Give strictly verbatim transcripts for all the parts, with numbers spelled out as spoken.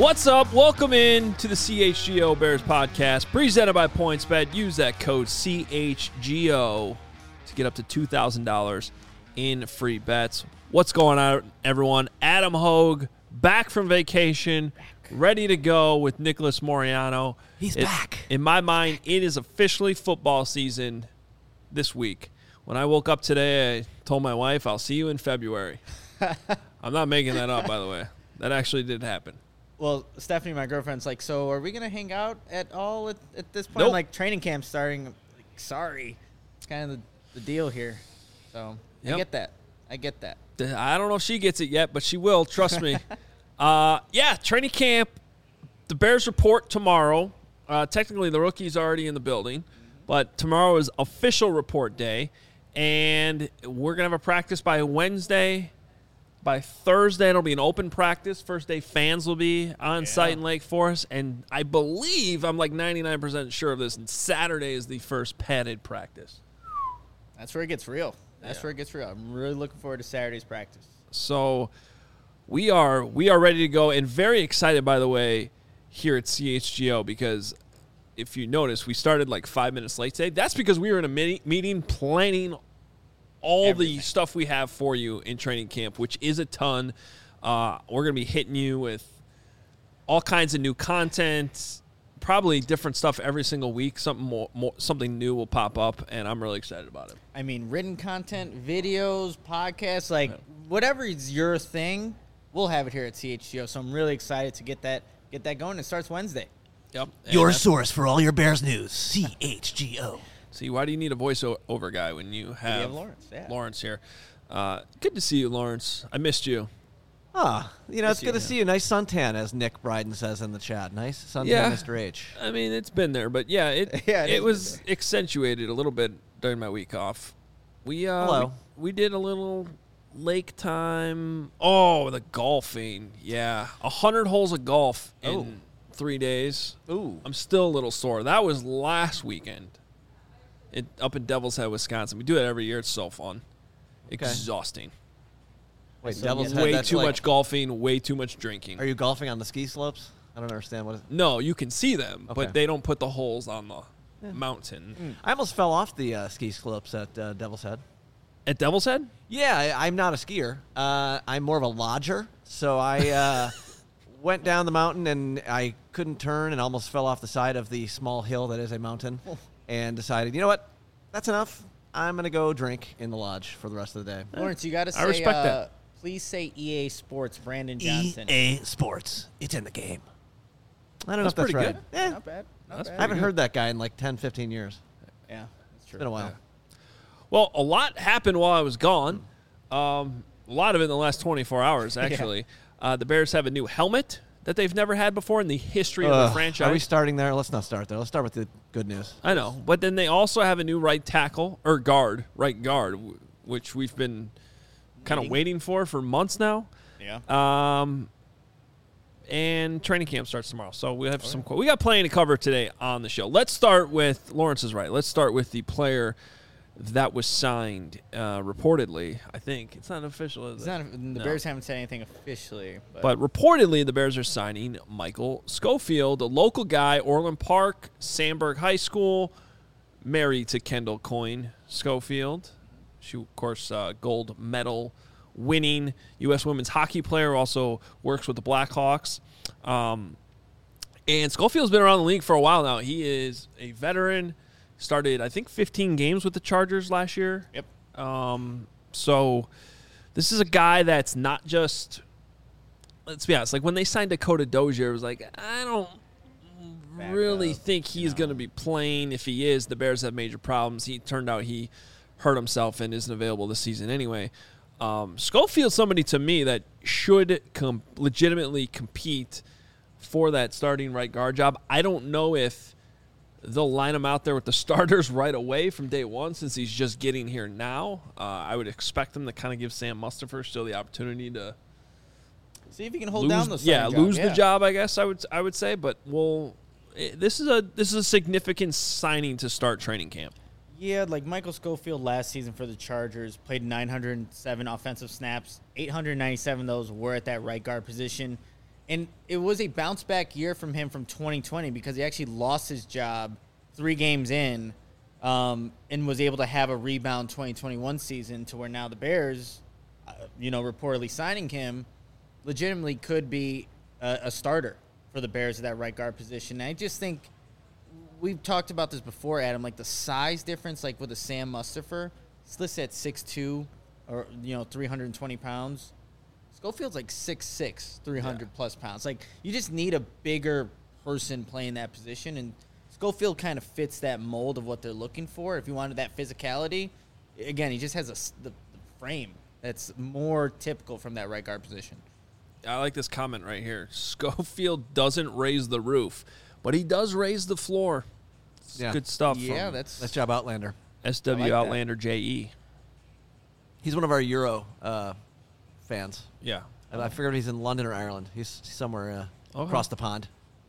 What's up? Welcome in to the C H G O Bears podcast, presented by PointsBet. Use that code C H G O to get up to two thousand dollars in free bets. What's going on, everyone? Adam Hogue, back from vacation, ready to go with Nicholas Moriano. He's it, back. In my mind, it is officially football season this week. When I woke up today, I told my wife, I'll see you in February. I'm not making that up, by the way. That actually did happen. Well, Stephanie, my girlfriend's like, so are we going to hang out at all at, at this point? Nope. I'm like, training camp starting. I'm like, sorry. It's kind of the, the deal here. So Yep. I get that. I get that. I don't know if she gets it yet, but she will. Trust me. uh, yeah, training camp. The Bears report tomorrow. Uh, technically, the rookie's already in the building, but tomorrow is official report day, and we're going to have a practice by Wednesday. By Thursday, it'll be an open practice. First day fans will be on Yeah. site in Lake Forest, and I believe, I'm like ninety-nine percent sure of this, and Saturday is the first padded practice. That's where it gets real. That's Yeah. where it gets real. I'm really looking forward to Saturday's practice. So we are we are ready to go, and very excited, by the way, here at C H G O, because if you notice, we started like five minutes late today. That's because we were in a mini- meeting planning all Everything. the stuff we have for you in training camp, which is a ton. Uh, we're going to be hitting you with all kinds of new content, probably different stuff every single week. Something more, more, something new will pop up, and I'm really excited about it. I mean, written content, videos, podcasts, like whatever is your thing, we'll have it here at C H G O. So I'm really excited to get that get that going. It starts Wednesday. Yep. And Your that's- source for all your Bears news, C H G O. See, why do you need a voiceover guy when you have, have Lawrence, yeah. Lawrence here? Uh, good to see you, Lawrence. I missed you. Ah, you know, it's Miss good you, to see you. Nice suntan, as Nick Bryden says in the chat. Nice suntan, Yeah. Mister H. I mean, it's been there, but yeah, it Yeah, it it, has was been accentuated a little bit during my week off. We uh, Hello. We, we did a little lake time. Oh, the golfing. Yeah, a hundred holes of golf in Oh. three days. Ooh. I'm still a little sore. That was last weekend. It, up in Devil's Head, Wisconsin. We do it every year. It's so fun. Exhausting. Wait, So Devil's getting Head, Way that's too like- much golfing, way too much drinking. Are you golfing on the ski slopes? I don't understand what. It, No, you can see them, Okay. but they don't put the holes on the mountain. I almost fell off the uh, ski slopes at uh, Devil's Head. At Devil's Head? Yeah, I, I'm not a skier. Uh, I'm more of a lodger. So I uh, went down the mountain and I couldn't turn and almost fell off the side of the small hill that is a mountain, and decided, you know what, that's enough. I'm gonna go drink in the lodge for the rest of the day. Lawrence, you got to say, I respect uh, that. please say E A Sports, Brandon Johnson. E A Sports, it's in the game. I don't know That's if that's pretty right. good. Eh, Not bad. Not That's bad. I haven't good. heard that guy in like ten, fifteen years. Yeah, that's true. It's been a while. Well, a lot happened while I was gone. Um, a lot of it in the last twenty-four hours, actually. uh, the Bears have a new helmet that they've never had before in the history of the Ugh, franchise. Are we starting there? Let's not start there. Let's start with the good news. I know, but then they also have a new right tackle or guard, right guard, w- which we've been kind of Waiting. waiting for for months now. Yeah. Um, and training camp starts tomorrow, so we have some. We got plenty to cover today on the show. Let's start with Lawrence is right. Let's start with the player that was signed, uh, reportedly. I think it's not official, is It's it? not, the No. Bears haven't said anything officially. But, But reportedly, the Bears are signing Michael Schofield, a local guy, Orland Park, Sandburg High School, married to Kendall Coyne Schofield. She, of course, uh, gold medal winning U S women's hockey player, also works with the Blackhawks. Um, and Schofield's been around the league for a while now. He is a veteran. Started, I think, fifteen games with the Chargers last year. Yep. Um, so this is a guy that's not just, let's be honest, like when they signed Dakota Dozier, it was like, I don't Back really up, think he's know. going to be playing. If he is, the Bears have major problems. He turned out he hurt himself and isn't available this season anyway. Um, Schofield's somebody to me that should com- legitimately compete for that starting right guard job. I don't know if they'll line him out there with the starters right away from day one since he's just getting here now. Uh, I would expect them to kind of give Sam Mustipher still the opportunity to see if you can hold lose, down the yeah, starting lose job. the job. I guess I would I would say, but we'll. eh, This is a this is a significant signing to start training camp. Yeah, like Michael Schofield last season for the Chargers played nine hundred seven offensive snaps. eight hundred ninety-seven of those were at that right guard position. And it was a bounce back year from him from twenty twenty because he actually lost his job three games in um, and was able to have a rebound twenty twenty-one season to where now the Bears, uh, you know, reportedly signing him, legitimately could be a, a starter for the Bears at that right guard position. And I just think we've talked about this before, Adam, like the size difference, like with a Sam Mustipher, it's listed at six two or, you know, three hundred twenty pounds. Schofield's like six six, three hundred yeah. plus pounds. Like, you just need a bigger person playing that position, and Schofield kind of fits that mold of what they're looking for. If you wanted that physicality, again, he just has a, the, the frame that's more typical from that right guard position. I like this comment right here. Schofield doesn't raise the roof, but he does raise the floor. It's yeah. good stuff. Yeah, from that's nice job, Outlander. S W like Outlander that. J E. He's one of our Euro uh, fans. Yeah. I, I figured he's in London or Ireland. He's somewhere uh, okay. across the pond.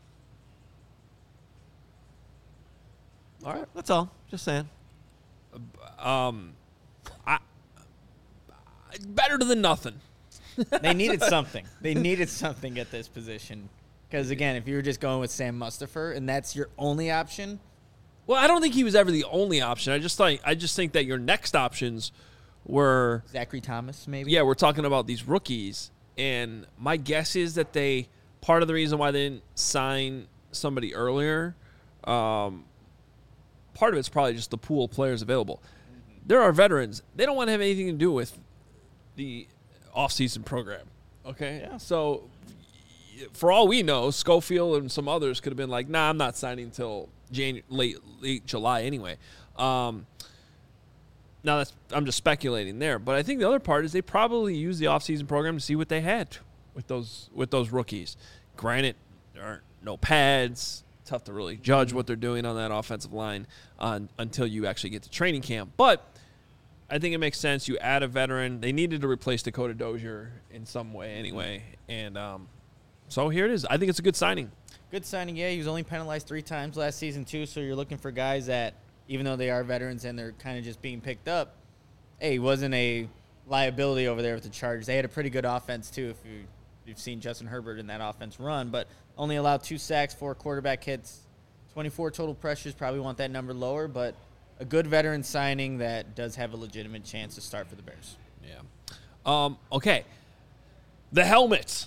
All right. That's all. Just saying. Um, I, better than nothing. They needed something. They needed something at this position. Because, again, if you were just going with Sam Mustipher and that's your only option. Well, I don't think he was ever the only option. I just think, I just think that your next options were Zachary Thomas, maybe? Yeah, we're talking about these rookies. And my guess is that they, part of the reason why they didn't sign somebody earlier, um, part of it's probably just the pool of players available. Mm-hmm. There are veterans. They don't want to have anything to do with the off-season program. Okay? Yeah. So, for all we know, Schofield and some others could have been like, nah, I'm not signing until January, late, late July anyway. Um, now, that's I'm just speculating there. But I think the other part is they probably used the off-season program to see what they had with those with those rookies. Granted, there aren't no pads. Tough to really judge what they're doing on that offensive line uh, until you actually get to training camp. But I think it makes sense. You add a veteran. They needed to replace Dakota Dozier in some way anyway. And um, so here it is. I think it's a good signing. Good signing, yeah. He was only penalized three times last season, too. So you're looking for guys that, even though they are veterans and they're kind of just being picked up, hey, he wasn't a liability over there with the Chargers. They had a pretty good offense, too, if you, you've seen Justin Herbert in that offense run. But only allowed two sacks, four quarterback hits, twenty-four total pressures. Probably want that number lower, but a good veteran signing that does have a legitimate chance to start for the Bears. Yeah. Um, okay. The helmets.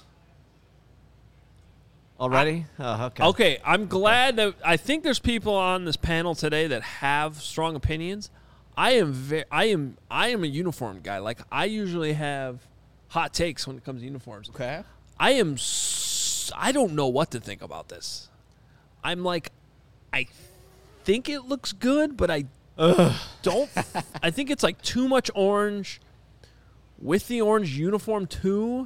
Already? Oh, okay. Okay, I'm glad that I think there's people on this panel today that have strong opinions. I am ve- I am I am a uniform guy. Like, I usually have hot takes when it comes to uniforms. Okay. I am s- I don't know what to think about this. I'm like, I think it looks good, but I Ugh. don't I think it's like too much orange with the orange uniform too.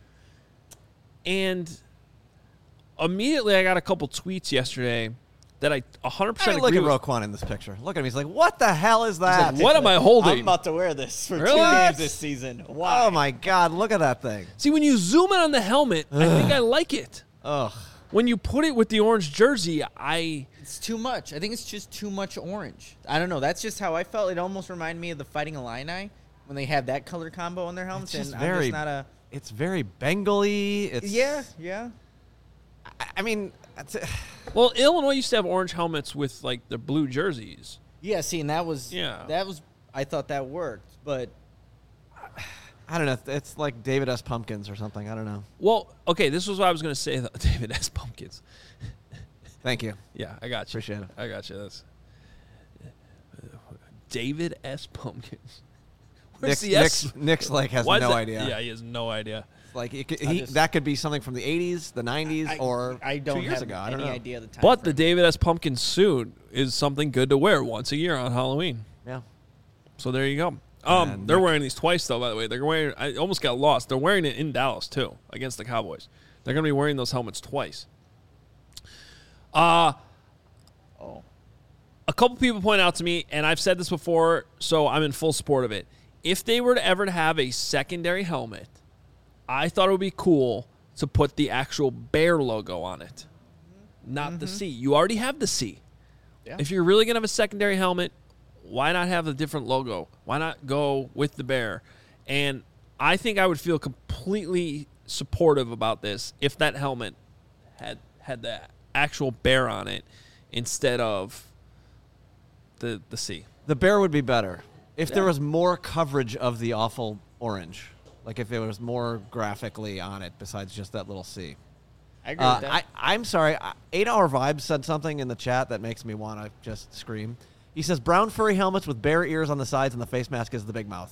And immediately, I got a couple tweets yesterday that I one hundred percent I mean, agree look with. at Roquan in this picture. Look at him. He's like, what the hell is that? Like, what am I holding? I'm about to wear this for Really? two games this season. Why? Oh, my God. Look at that thing. See, when you zoom in on the helmet, Ugh. I think I like it. Ugh. When you put it with the orange jersey, I... It's too much. I think it's just too much orange. I don't know. That's just how I felt. It almost reminded me of the Fighting Illini when they have that color combo on their helmets. It's just and very, I'm just not a... It's very Bengal-y. It's, yeah, yeah. I, I mean... That's it. Well, Illinois used to have orange helmets with, like, the blue jerseys. Yeah, see, and that was... Yeah. That was... I thought that worked, but... I don't know. It's like David S. Pumpkins or something. I don't know. Well, okay, this was what I was going to say, though. David S. Pumpkins. Thank you. Yeah, I got you. Appreciate it. I got you. That's David S. Pumpkins. Where's Nick's, the S? Nick's, Nick's like has Why no is that- idea. Yeah, he has no idea. Like it could, I he, just- that could be something from the eighties, the nineties, I, or I don't two years have ago. I any don't know. idea of the time But the frame. David S. Pumpkins suit is something good to wear once a year on Halloween. Yeah. So there you go. Um, And they're Nick- wearing these twice, though, by the way. They're wearing. I almost got lost. They're wearing it in Dallas, too, against the Cowboys. They're going to be wearing those helmets twice. Uh, Oh. a couple people point out to me, and I've said this before, so I'm in full support of it. If they were to ever to have a secondary helmet, I thought it would be cool to put the actual Bear logo on it, not Mm-hmm. the C. You already have the C. Yeah. If you're really going to have a secondary helmet, why not have a different logo? Why not go with the Bear? And I think I would feel completely supportive about this if that helmet had had the actual bear on it instead of the the C. The bear would be better if Yeah. there was more coverage of the awful orange. Like if it was more graphically on it besides just that little C. I agree Uh, with that. I, I'm sorry. I- Eight Hour Vibes said something in the chat that makes me want to just scream. He says, brown furry helmets with bear ears on the sides and the face mask is the big mouth.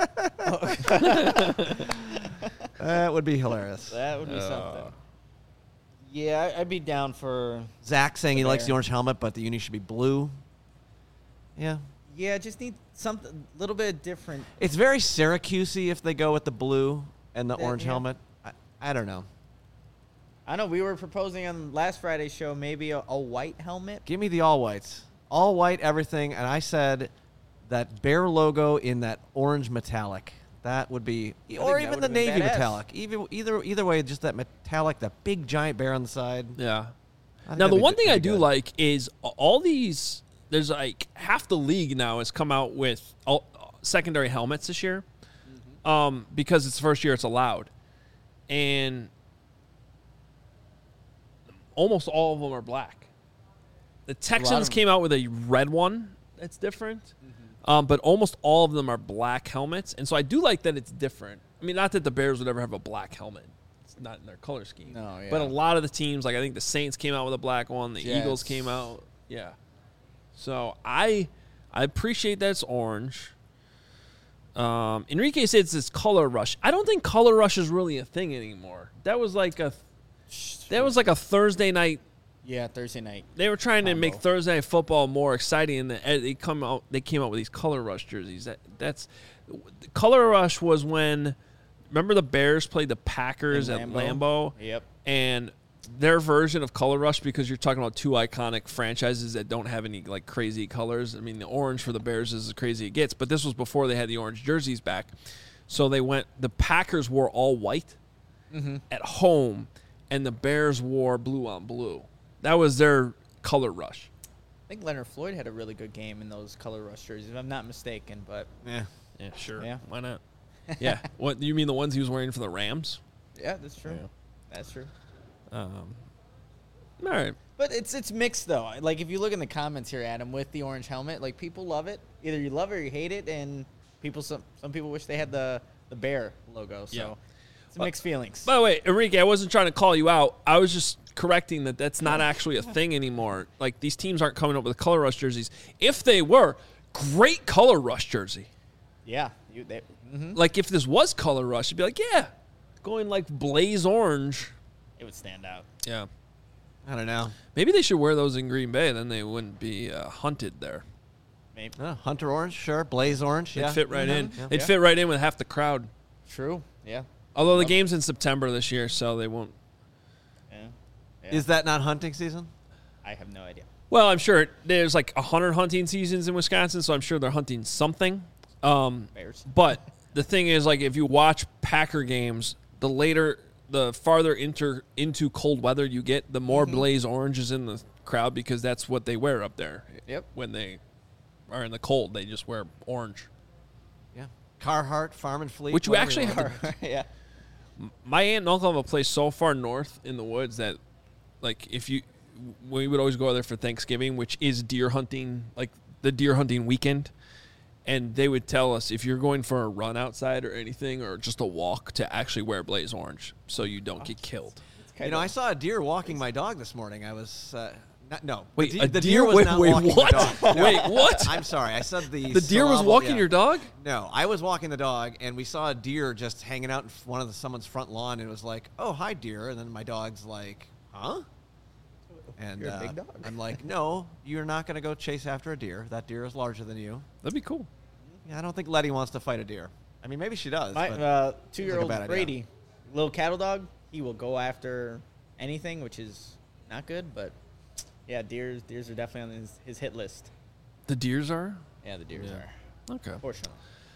That would be hilarious. that would be Uh. something. Yeah, I- I'd be down for. Zach saying he The likes bear. the orange helmet, but the uni should be blue. Yeah. Yeah, just need something a little bit different. It's very Syracusey if they go with the blue and the Yeah, orange yeah. helmet. I, I don't know. I know we were proposing on last Friday's show maybe a, a white helmet. Give me the all whites. All white everything. And I said that bear logo in that orange metallic. That would be, think or that even would've the been navy badass. metallic. Either, either, either way, just that metallic, that big giant bear on the side. Yeah. I think Now, that'd the be- one thing that'd I be do good. like is all these. There's like half the league now has come out with all, secondary helmets this year, um, because it's the first year it's allowed, and almost all of them are black. The Texans of- came out with a red one that's different, um, but almost all of them are black helmets, and so I do like that it's different. I mean, not that the Bears would ever have a black helmet. It's not in their color scheme. No, yeah. But a lot of the teams, like I think the Saints came out with a black one, the Eagles Jets. came out. Yeah. So I I appreciate that it's orange. Um, Enrique says it's color rush. I don't think color rush is really a thing anymore. That was like a that was like a Thursday night. Yeah, Thursday night. They were trying to Combo. make Thursday night football more exciting, and the- they come out. They came out with these color rush jerseys. That that's color rush was when remember the Bears played the Packers In at Lambeau. Lambeau, Yep. and their version of color rush, because you're talking about two iconic franchises that don't have any like crazy colors. I mean, the orange for the Bears is as crazy it gets, but this was before they had the orange jerseys back. So they went. The Packers wore all white at home, and the Bears wore blue on blue. That was their color rush. I think Leonard Floyd had a really good game in those color rush jerseys, if I'm not mistaken. But Yeah. Yeah, sure. Yeah. Why not? Yeah. What you mean the ones he was wearing for the Rams? yeah, that's true. Yeah. That's true. Um, all right. But it's it's mixed though. Like if you look in the comments here, Adam, with the orange helmet, like people love it. Either you love it or you hate it, and people some some people wish they had the the bear logo. So Yeah. it's mixed feelings. By the way, Enrique, I wasn't trying to call you out. I was just correcting that that's not actually a thing anymore. Like these teams aren't coming up with color rush jerseys. If they were, great color rush jersey. yeah, you they, mhm. Like if this was color rush, it'd be like, yeah, going like blaze orange. it would stand out. Yeah. I don't know. Maybe they should wear those in Green Bay. Then they wouldn't be uh, hunted there. Maybe Uh, Hunter orange, sure. Blaze orange, They'd yeah. fit right in. Yeah. They'd Yeah. fit right in with half the crowd. true. Yeah. Although the game's in September this year, so they won't. Yeah. yeah. Is that not hunting season? I have no idea. Well, I'm sure there's like a hundred hunting seasons in Wisconsin, so I'm sure they're hunting something. Um, Bears. but the thing is, like, if you watch Packer games, the later, the farther inter, into cold weather you get, the more blaze orange is in the crowd because that's what they wear up there. Yep. When they are in the cold, they just wear orange. Yeah. Carhartt, Farm and Fleet. Which you whatever actually want. have to yeah. My aunt and uncle have a place so far north in the woods that, like, if you, we would always go there for Thanksgiving, which is deer hunting, like the deer hunting weekend. And they would tell us if you're going for a run outside or anything, or just a walk, to actually wear blaze orange so you don't get killed. You know, I saw a deer walking my dog this morning. I was uh, not, no. Wait, the, a de- the deer? deer was Wait, not wait, walking what? the dog. No. Wait, what? I'm sorry. I said the The deer was syllable- walking yeah. your dog? No, I was walking the dog, and we saw a deer just hanging out in f- one of the someone's front lawn, and it was like, "Oh, hi, deer," and then my dog's like, "Huh?" And You're a uh, big dog. I'm like, "No, you're not going to go chase after a deer. That deer is larger than you." That'd be cool. Yeah, I don't think Letty wants to fight a deer. I mean, maybe she does. My but uh, seems two-year-old like a bad idea. Brady, little cattle dog, he will go after anything, which is not good. But yeah, deers, deers are definitely on his, his hit list. The deers are? Yeah, the deers Yeah. are. Okay. Fortunately,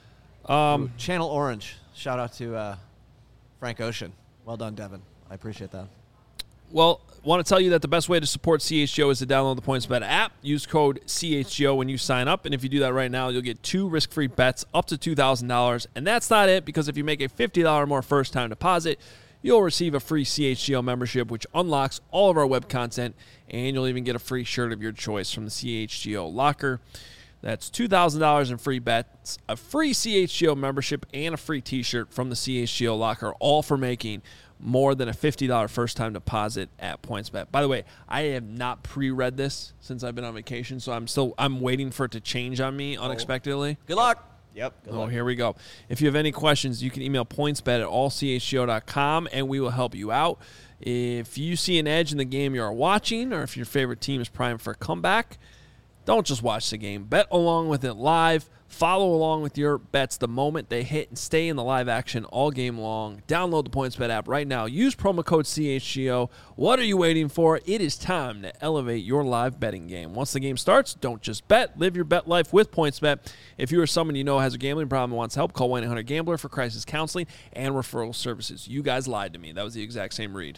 Um, Channel Orange. Shout out to uh, Frank Ocean. Well done, Devin. I appreciate that. Well, want to tell you that the best way to support C H G O is to download the PointsBet app. Use code C H G O when you sign up, and if you do that right now, you'll get two risk-free bets up to two thousand dollars. And that's not it, because if you make a fifty dollars more first-time deposit, you'll receive a free C H G O membership, which unlocks all of our web content, and you'll even get a free shirt of your choice from the C H G O locker. That's two thousand dollars in free bets, a free C H G O membership, and a free t-shirt from the C H G O locker, all for making more than a fifty dollars first-time deposit at PointsBet. By the way, I have not pre-read this since I've been on vacation, so I'm still I'm waiting for it to change on me unexpectedly. Good luck. Yep. Good Oh, luck. here we go. If you have any questions, you can email pointsbet at all c h g o dot com, and we will help you out. If you see an edge in the game you are watching, or if your favorite team is primed for a comeback, don't just watch the game. Bet along with it live. Follow along with your bets the moment they hit and stay in the live action all game long. Download the PointsBet app right now. Use promo code C H G O. What are you waiting for? It is time to elevate your live betting game. Once the game starts, don't just bet. Live your bet life with PointsBet. If you or someone you know has a gambling problem and wants help, call one eight hundred gambler for crisis counseling and referral services. You guys lied to me. That was the exact same read.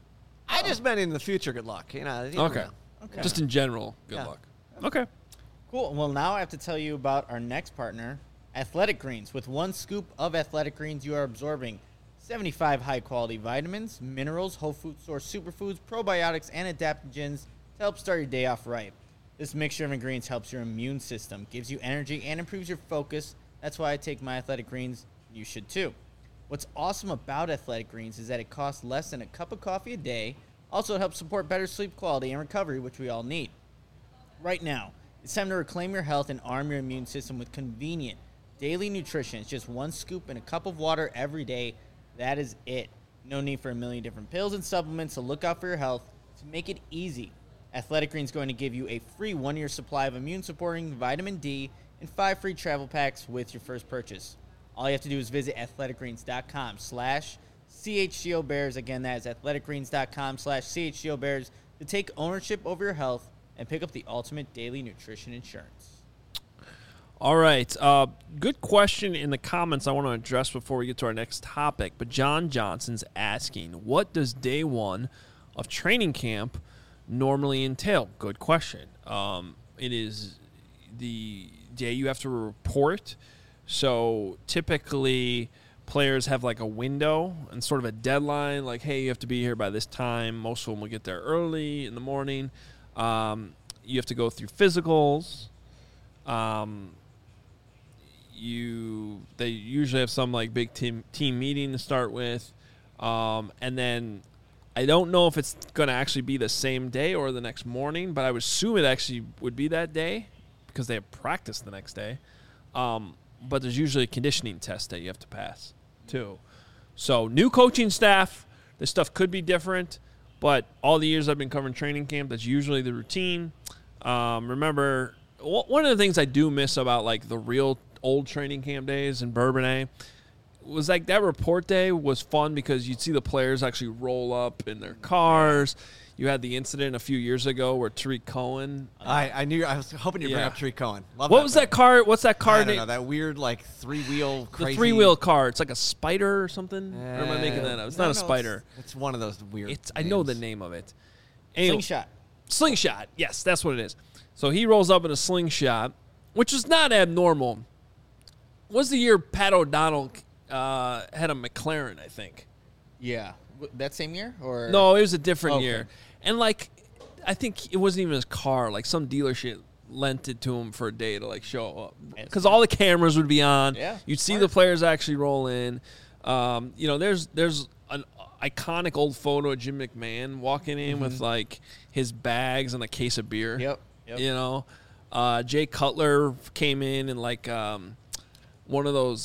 I just meant in the future, good luck. You know. you never Okay. know. Okay. Just in general, good Yeah. luck. Okay. Cool. Well, now I have to tell you about our next partner, Athletic Greens. With one scoop of Athletic Greens, you are absorbing seventy-five high-quality vitamins, minerals, whole food source superfoods, probiotics, and adaptogens to help start your day off right. This mixture of ingredients helps your immune system, gives you energy, and improves your focus. That's why I take my Athletic Greens. You should too. What's awesome about Athletic Greens is that it costs less than a cup of coffee a day. Also, it helps support better sleep quality and recovery, which we all need. Right now, it's time to reclaim your health and arm your immune system with convenient daily nutrition. It's just one scoop in a cup of water every day. That is it. No need for a million different pills and supplements to look out for your health. To make it easy, Athletic Greens is going to give you a free one-year supply of immune-supporting vitamin D and five free travel packs with your first purchase. All you have to do is visit athleticgreens.com slash CHGOBears. Again, that is athleticgreens.com slash CHGOBears to take ownership over your health and pick up the ultimate daily nutrition insurance. All right. Uh, good question in the comments I want to address before we get to our next topic. But John Johnson's asking, what does day one of training camp normally entail? Good question. Um, it is the day you have to report. So typically players have like a window and sort of a deadline, like, hey, you have to be here by this time. Most of them will get there early in the morning. Um, you have to go through physicals. Um, you they usually have some like big team team meeting to start with, um, and then I don't know if it's going to actually be the same day or the next morning, but I would assume it actually would be that day because they have practice the next day. Um, but there's usually a conditioning test that you have to pass too. So new coaching staff, this stuff could be different. But all the years I've been covering training camp, that's usually the routine. Um, remember, w- one of the things I do miss about, like, the real old training camp days in Bourbonnais was, like, that report day was fun because you'd see the players actually roll up in their cars. You had the incident a few years ago where Tariq Cohen. I, I knew I was hoping you'd bring Yeah. up Tariq Cohen. Love What that was man. that car? What's that car I don't name? know, that weird like three wheel The crazy three wheel car. It's like a spider or something. or am I making Uh, that up? It's no, not a no, spider. It's, it's one of those weird. It's I know the names. name of it. Anyway, Slingshot. Slingshot. Yes, that's what it is. So he rolls up in a slingshot, which is not abnormal. Was the year Pat O'Donnell uh, had a McLaren, I think. Yeah. W- That same year? Or No, it was a different Okay. year. And, like, I think it wasn't even his car. Like, some dealership lent it to him for a day to, like, show up. Because all the cameras would be on. Yeah, You'd see smart. the players actually roll in. Um, you know, there's there's an iconic old photo of Jim McMahon walking in with, like, his bags and a case of beer. Yep. Yep. You know, uh, Jay Cutler came in in like um, one of those,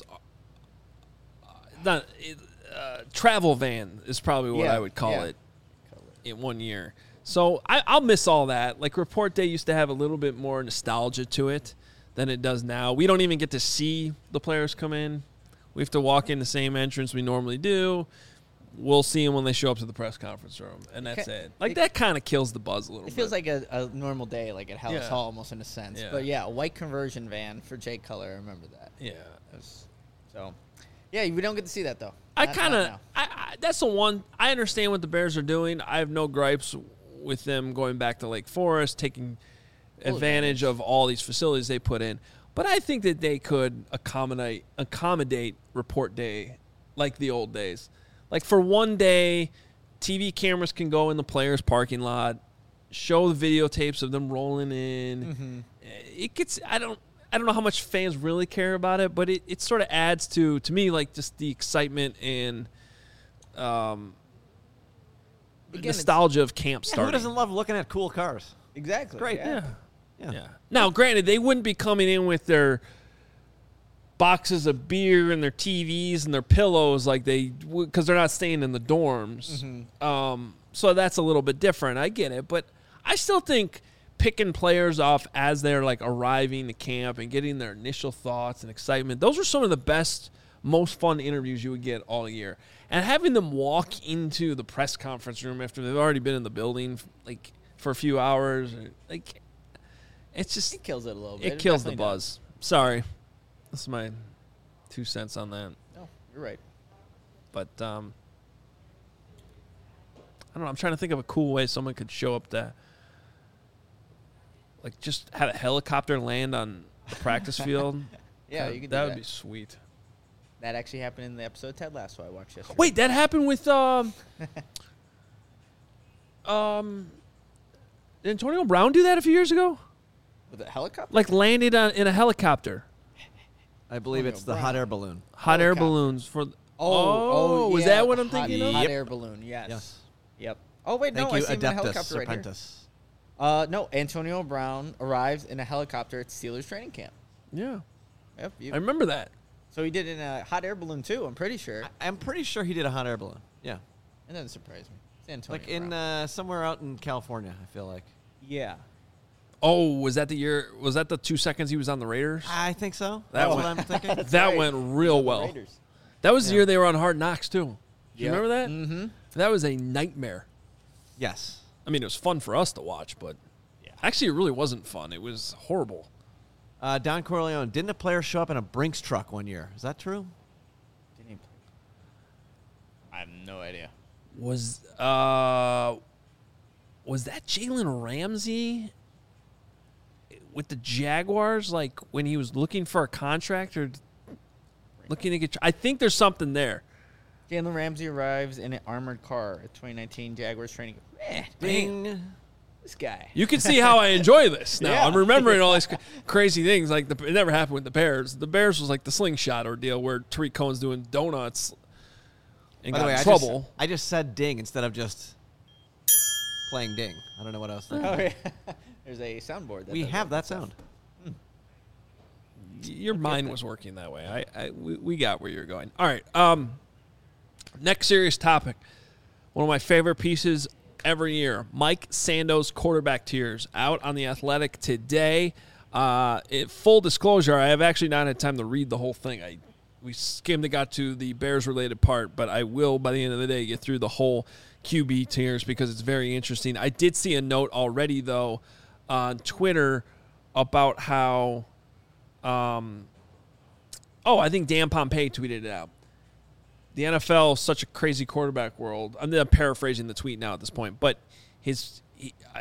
uh, not uh, travel van is probably what Yeah, I would call yeah. it in one year. So I, I'll miss all that. Like report day used to have a little bit more nostalgia to it than it does now. We don't even get to see the players come in. We have to walk in the same entrance we normally do. We'll see them when they show up to the press conference room, and that's ca- it. Like, it- that kind of kills the buzz a little It bit. feels like a, a normal day, like at Hallis Yeah. Hall, almost in a sense. Yeah. But yeah, a white conversion van for Jay Cutler. I remember that. Yeah. That was- so, yeah, we don't get to see that though. I Not- kind not of, now. I, I that's the one. I understand what the Bears are doing. I have no gripes with them going back to Lake Forest, taking Full advantage of all these facilities they put in. But I think that they could accommodate accommodate report day like the old days. Like for one day, T V cameras can go in the players' parking lot, show the videotapes of them rolling in. Mm-hmm. It gets. I don't. I don't know how much fans really care about it, but it, it sort of adds to to me like just the excitement and um, Again, nostalgia of camp Yeah, starting. who doesn't love looking at cool cars? Exactly. Great. Yeah. Yeah. Yeah. Now, granted, they wouldn't be coming in with their boxes of beer and their T Vs and their pillows like they because they're not staying in the dorms. Mm-hmm. Um, so that's a little bit different. I get it, but I still think picking players off as they're like arriving to camp and getting their initial thoughts and excitement, those are some of the best, most fun interviews you would get all year. And having them walk into the press conference room after they've already been in the building like for a few hours, like it's just It kills it a little bit. it kills the definitely buzz. Sorry, that's my two cents on that. does. No, you're right. But um, I don't know. I'm trying to think of a cool way someone could show up to, like, just have a helicopter land on the practice field. Yeah, that, you could do that that. would be sweet. That actually happened in the episode of Ted Lasso I watched yesterday. Wait, that happened with um, um, did Antonio Brown do that a few years ago? With a helicopter? Like landed on in a helicopter, I believe Antonio it's the Brown. hot air balloon. hot air Helicopter. balloons for. th- Oh, was yeah, that what I'm hot, thinking of? Hot Yep. air balloon, yes. Yes. Yep. Oh, wait, Thank no, you, I see him in a Adeptus helicopter right here. Serpentis. Uh, no, Antonio Brown arrives in a helicopter at Steelers training camp. Yeah, Yep. You, I remember that. so he did it in a hot air balloon, too, I'm pretty sure. I- I'm pretty sure he did a hot air balloon. Yeah. It doesn't surprise me. It's Antonio Like in Brown. uh, somewhere out in California, I feel like. yeah. Oh, was that the year? Was that the two seconds he was on the Raiders? I think so. That That's one- what I'm thinking. that right. went real well. Raiders. That was the Yeah. year they were on Hard Knocks too. Do you Yep. remember that? Mm-hmm. That was a nightmare. Yes. I mean, it was fun for us to watch, but Yeah. actually, it really wasn't fun. It was horrible. Uh, Don Corleone, didn't a player show up in a Brinks truck one year? Is that true? Didn't he play? I have no idea. Was uh, was that Jalen Ramsey with the Jaguars? Like when he was looking for a contract or looking to get? I think there's something there. Jalen Ramsey arrives in an armored car at twenty nineteen Jaguars training. Eh, Ding. this guy. You can see how I enjoy this now. Yeah. I'm remembering all these cra- crazy things. Like the, it never happened with the Bears. The Bears was like the slingshot ordeal where Tariq Cohen's doing donuts and By got the way, in I trouble. just, I just said ding instead of just playing ding. I don't know what else. Oh, yeah. There's a soundboard. That We does have that that sound. Your mind was working that way. I, I we, we got where you're going. All right. Um, next serious topic. One of my favorite pieces every year. Mike Sando's quarterback tiers out on the Athletic today. Uh, it, full disclosure, I have actually not had time to read the whole thing. I we skimmed and got to the Bears related part, but I will by the end of the day get through the whole Q B tiers because it's very interesting. I did see a note already though on Twitter about how. Um, oh, I think Dan Pompei tweeted it out. The N F L is such a crazy quarterback world. I'm paraphrasing the tweet now at this point, but his he, I,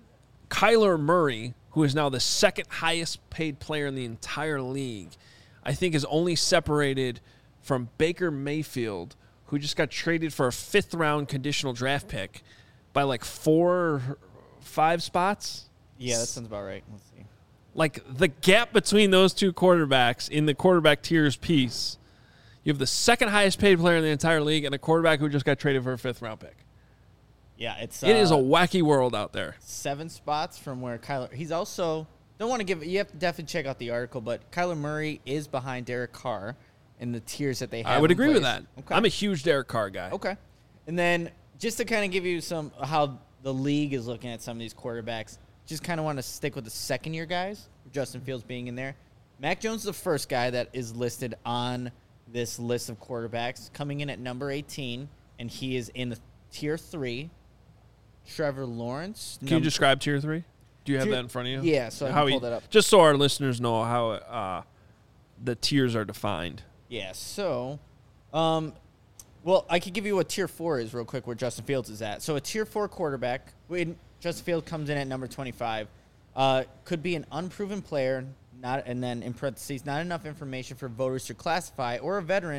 Kyler Murray, who is now the second highest paid player in the entire league, I think is only separated from Baker Mayfield, who just got traded for a fifth round conditional draft pick by like four, five spots. Yeah, that sounds about right. Let's see. Like the gap between those two quarterbacks in the quarterback tiers piece, you have the second highest paid player in the entire league and a quarterback who just got traded for a fifth round pick. Yeah, it's It is a uh, wacky world out there. seven spots from where Kyler. He's also don't want to give. You have to definitely check out the article, but Kyler Murray is behind Derek Carr in the tiers that they have. I would in agree with place. that. Okay. I'm a huge Derek Carr guy. Okay. And then just to kind of give you some how the league is looking at some of these quarterbacks, just kind of want to stick with the second year guys, Justin Fields being in there. Mac Jones is the first guy that is listed on this list of quarterbacks, coming in at number eighteen, and he is in the tier three. Trevor Lawrence. Can you num- describe tier three? Do you have Tier- that in front of you? Yeah, so I can how pull he- that up. Just so our listeners know how uh, the tiers are defined. Yeah, so, um, well, I could give you what tier four is real quick where Justin Fields is at. So a tier four quarterback, when Justin Fields comes in at number twenty-five, uh, could be an unproven player, not, and then in parentheses, not enough information for voters to classify, or a veteran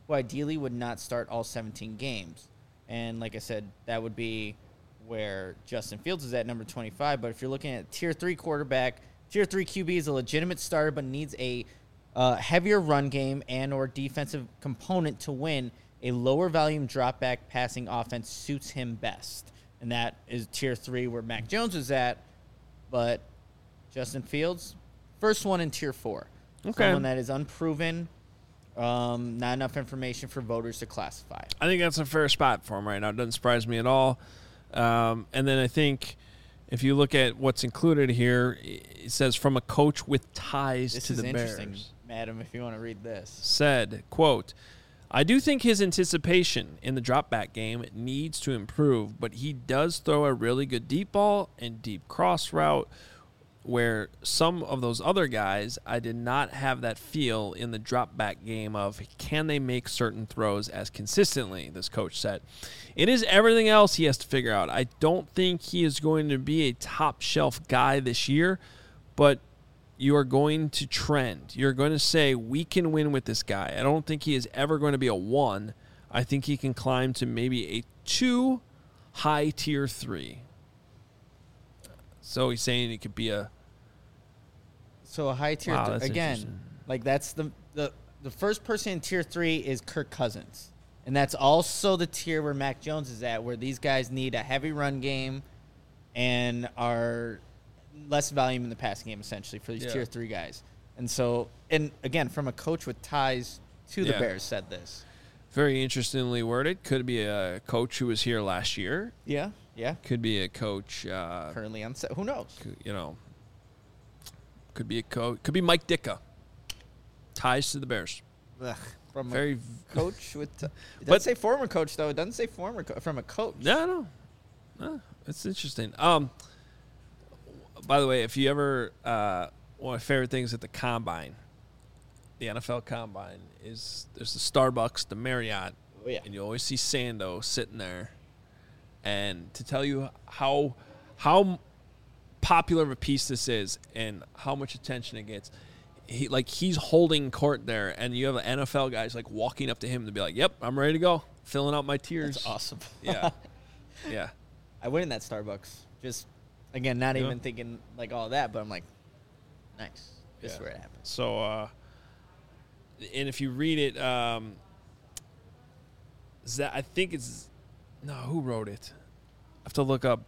who ideally would not start all seventeen games. And like I said, that would be where Justin Fields is at number twenty-five. But if you're looking at tier three quarterback, tier three Q B is a legitimate starter but needs a uh, heavier run game and or defensive component to win. A lower volume drop back passing offense suits him best. And that is tier three where Mac Jones was at. But Justin Fields, first one in tier four. Okay. Someone that is unproven, um, not enough information for voters to classify. I think that's a fair spot for him right now. It doesn't surprise me at all. Um, and then I think if you look at what's included here, it says from a coach with ties This to is the interesting, Bears. madam, if you want to read this. Said, quote, I do think his anticipation in the drop back game needs to improve, but he does throw a really good deep ball and deep cross route where some of those other guys, I did not have that feel in the drop back game of can they make certain throws as consistently, this coach said. It is everything else he has to figure out. I don't think he is going to be a top shelf guy this year, but you are going to trend. You're going to say, we can win with this guy. I don't think he is ever going to be a one. I think he can climb to maybe a two, high tier three. So he's saying he could be a... So a high tier, Wow, th- that's again, interesting. like that's the, the, the first person in tier three is Kirk Cousins. And that's also the tier where Mac Jones is at, where these guys need a heavy run game and are less volume in the passing game, essentially, for these Yeah. tier three guys. And so, and again, from a coach with ties to the Yeah. Bears said this. Very interestingly worded. Could be a coach who was here last year. Yeah, yeah. Could be a coach, uh, Currently on set. Who knows? could- you know, could be a coach. Could be Mike Ditka. Ties to the Bears. Ugh. From Very, a coach with. T- it doesn't But- say former coach, though. It doesn't say former co- from a coach. no, no, no. It's interesting. Um, by the way, if you ever uh, one of my favorite things at the combine, the N F L combine is there's the Starbucks, the Marriott, Oh, yeah. and you always see Sando sitting there. And to tell you how how popular of a piece this is and how much attention it gets, he like he's holding court there, and you have N F L guys like walking up to him to be like, "Yep, I'm ready to go, filling out my tiers." That's awesome. Yeah, yeah. I went in that Starbucks. Just, again, not Yeah. even thinking like all that, but I'm like, nice. This is Yeah. where it happens. So, uh, and if you read it, um, Zach, I think it's no, who wrote it? I have to look up.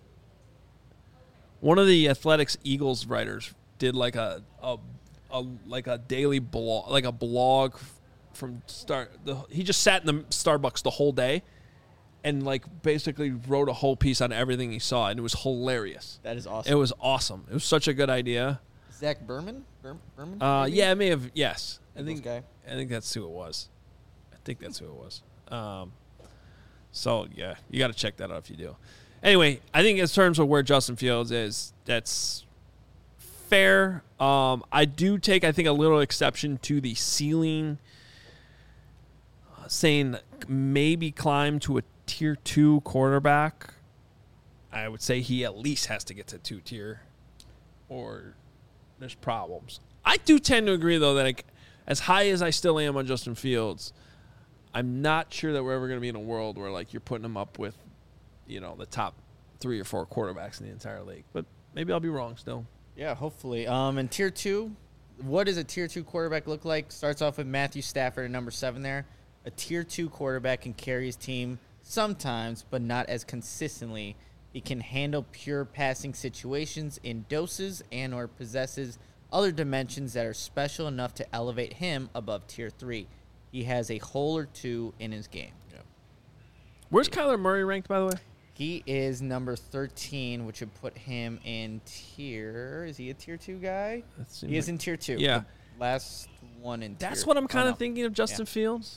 One of the Athletics Eagles writers did like a a, a like a daily blog, like a blog from start. The, he just sat in the Starbucks the whole day, and like basically wrote a whole piece on everything he saw, and it was hilarious. That is awesome. It was awesome. It was such a good idea. Zach Berman? Ber- Berman? Uh, maybe? yeah, I may have. Yes, I Eagles think. guy. I think that's who it was. I think that's who it was. Um, so yeah, you got to check that out if you do. Anyway, I think in terms of where Justin Fields is, that's fair. Um, I do take, I think, a little exception to the ceiling, uh, saying maybe climb to a tier two quarterback. I would say he at least has to get to two tier, or there's problems. I do tend to agree, though, that like, as high as I still am on Justin Fields, I'm not sure that we're ever going to be in a world where like you're putting him up with, you know, the top three or four quarterbacks in the entire league. But maybe I'll be wrong still. Yeah, hopefully. Um, and tier two, what does a tier two quarterback look like? Starts off with Matthew Stafford at number seven there. A tier two quarterback can carry his team sometimes, but not as consistently. He can handle pure passing situations in doses and or possesses other dimensions that are special enough to elevate him above tier three. He has a hole or two in his game. Where's Kyler Murray ranked, by the way? He is number thirteen, which would put him in tier. Is he a tier two guy? That seems He is like- in tier two. Yeah. The last one in That's tier. what I'm oh, kind of no. thinking of Justin Yeah. Fields.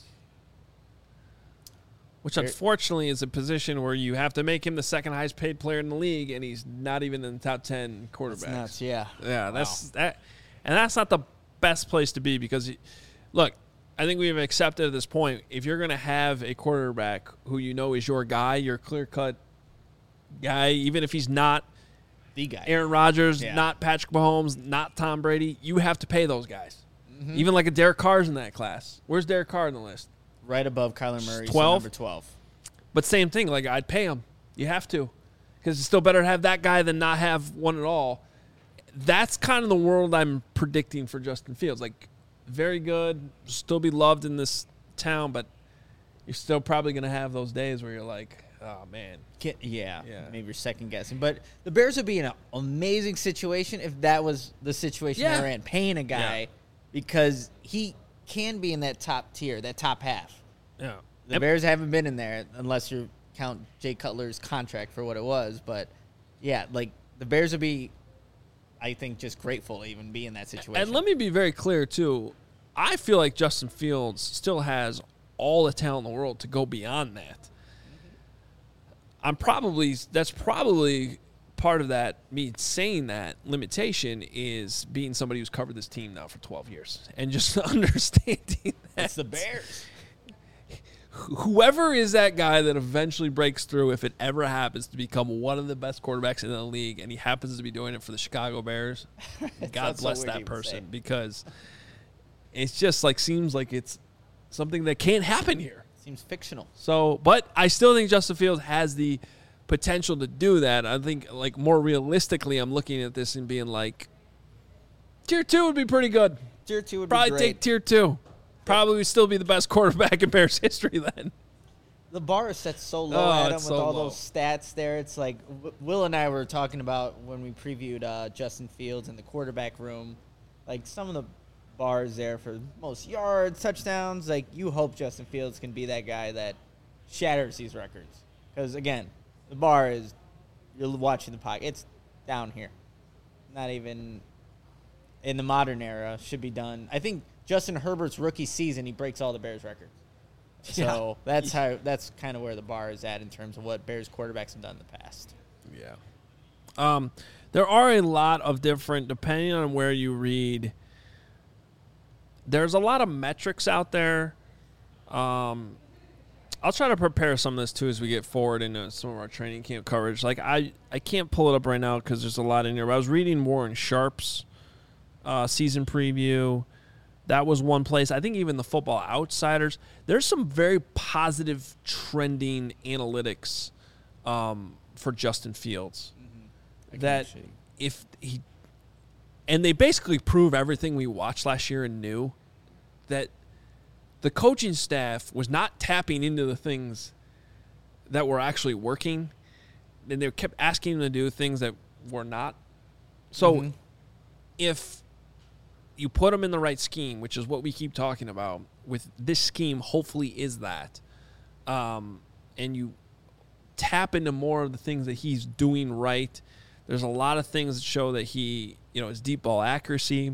Which, There- unfortunately, is a position where you have to make him the second highest paid player in the league, and he's not even in the top ten quarterbacks. That's nuts, yeah. Yeah, that's that, and that's not the best place to be because, look, I think we've accepted at this point if you're going to have a quarterback who you know is your guy, your clear cut guy, even if he's not The guy. Aaron Rodgers, Yeah. not Patrick Mahomes, not Tom Brady, you have to pay those guys. Mm-hmm. Even like a Derek Carr's in that class. Where's Derek Carr in the list? right above Kyler Murray, so twelve? number twelve. But same thing. Like, I'd pay him. You have to. Because it's still better to have that guy than not have one at all. That's kind of the world I'm predicting for Justin Fields. Like, very good, still be loved in this town, but you're still probably going to have those days where you're like, oh, man. Get, yeah, Yeah. maybe you're second guessing. But the Bears would be in an amazing situation if that was the situation Yeah. they were in, paying a guy Yeah. because he can be in that top tier, that top half. Yeah. The Bears haven't been in there unless you count Jay Cutler's contract for what it was. But, yeah, like the Bears would be, I think, just grateful to even be in that situation. And let me be very clear, too. I feel like Justin Fields still has all the talent in the world to go beyond that. I'm probably that's probably part of that. Me saying that limitation is being somebody who's covered this team now for twelve years and just understanding that It's the Bears. whoever is that guy that eventually breaks through, if it ever happens to become one of the best quarterbacks in the league, and he happens to be doing it for the Chicago Bears, God Sounds so bless weird to that even person, say. because it's just like seems like it's something that can't happen here. Seems fictional. So, but I still think Justin Fields has the potential to do that. I think, like, more realistically, I'm looking at this and being like, tier two would be pretty good. Tier two would Probably be great. take tier two. Probably would still be the best quarterback in Bears history then. The bar is set so low, Oh, Adam, it's with so all low. those stats there. It's like W- Will and I were talking about when we previewed uh, Justin Fields in the quarterback room. Like, some of the bars there for most yards, touchdowns. Like, you hope Justin Fields can be that guy that shatters these records. Because, again, the bar is, you're watching the pocket. It's down here. Not even in the modern era should be done. I think Justin Herbert's rookie season, he breaks all the Bears records. So Yeah. that's how that's kind of where the bar is at in terms of what Bears quarterbacks have done in the past. Yeah. Um, there are a lot of different, depending on where you read, there's a lot of metrics out there. Um, I'll try to prepare some of this, too, as we get forward into some of our training camp coverage. Like, I, I can't pull it up right now because there's a lot in here. But I was reading Warren Sharp's uh, season preview. That was one place. I think even the Football Outsiders. There's some very positive trending analytics um, for Justin Fields. Mm-hmm. That if he – and they basically prove everything we watched last year and knew, that the coaching staff was not tapping into the things that were actually working, and they kept asking them to do things that were not. So Mhm. if you put them in the right scheme, which is what we keep talking about, with this scheme hopefully is that, um, and you tap into more of the things that he's doing right, there's a lot of things that show that he, you know, his deep ball accuracy,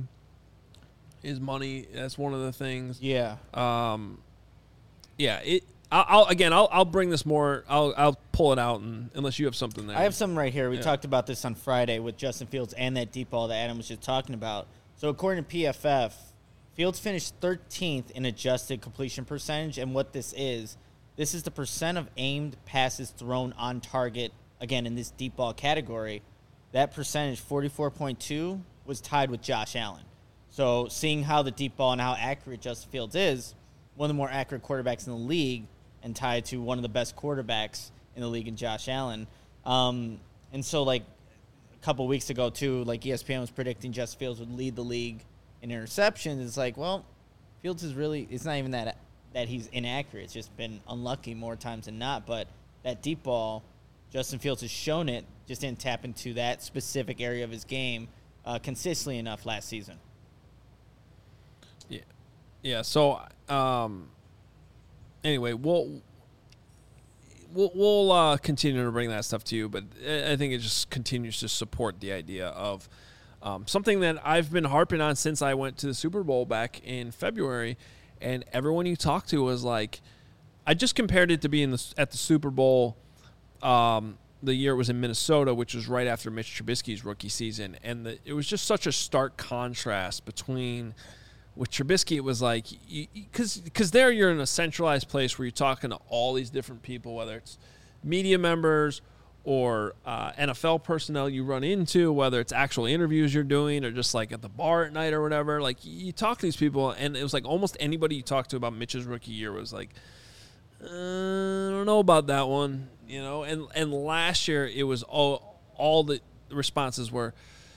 his money, that's one of the things. Yeah. Um, yeah, it. I'll, I'll again. I'll I'll bring this more. I'll I'll pull it out, and unless you have something there. I have some right here. We Yeah. talked about this on Friday with Justin Fields and that deep ball that Adam was just talking about. So according to P F F, Fields finished thirteenth in adjusted completion percentage, and what this is, this is the percent of aimed passes thrown on target, again, in this deep ball category. That percentage, forty-four point two, was tied with Josh Allen. So seeing how the deep ball and how accurate Justin Fields is, one of the more accurate quarterbacks in the league and tied to one of the best quarterbacks in the league in Josh Allen. Um, and so, like, a couple weeks ago, too, like E S P N was predicting Justin Fields would lead the league in interceptions. It's like, well, Fields is really – it's not even that that he's inaccurate. It's just been unlucky more times than not. But that deep ball, Justin Fields has shown it, just didn't tap into that specific area of his game uh, consistently enough last season. Yeah, yeah. So, um, anyway, we'll we'll we'll uh, continue to bring that stuff to you, but I I think it just continues to support the idea of um, something that I've been harping on since I went to the Super Bowl back in February, and everyone you talk to was like, I just compared it to being the, at the Super Bowl. Um, the year it was in Minnesota, which was right after Mitch Trubisky's rookie season, and the, it was just such a stark contrast between. With Trubisky, it was like, because because there you're in a centralized place where you're talking to all these different people, whether it's media members or uh, N F L personnel you run into, whether it's actual interviews you're doing or just like at the bar at night or whatever. Like you talk to these people, and it was like almost anybody you talked to about Mitch's rookie year was like, uh, I don't know about that one, you know. And and last year it was all all the responses were,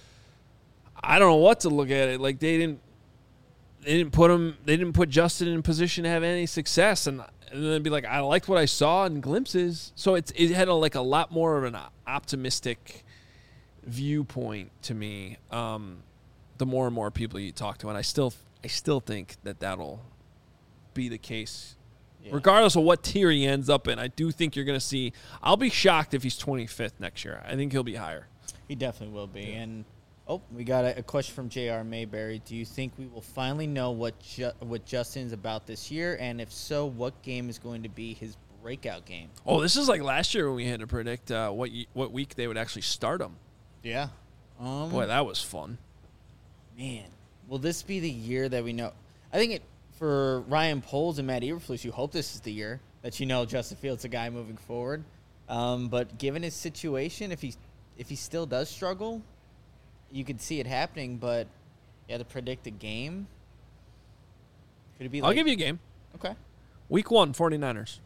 I don't know what to look at it. Like they didn't they didn't put him they didn't put Justin in position to have any success, and. And then be like, I liked what I saw in glimpses. So it's it had a, like a lot more of an optimistic viewpoint to me. Um, the more and more people you talk to, and I still I still think that that'll be the case, yeah. Regardless of what tier he ends up in. I do think you're going to see. I'll be shocked if he's twenty-fifth next year. I think he'll be higher. He definitely will be, yeah. and. Oh, we got a, a question from J R Mayberry. Do you think we will finally know what Ju- what Justin's about this year? And if so, what game is going to be his breakout game? Oh, this is like last year when we had to predict uh, what y- what week they would actually start him. Yeah. Um, Boy, that was fun. Man, will this be the year that we know? I think it for Ryan Poles and Matt Eberflus, you hope this is the year that you know Justin Fields' a guy moving forward. Um, but given his situation, if he if he still does struggle, you could see it happening, but you had to predict a game. Could it be like, I'll give you a game. Okay. Week one, 49ers.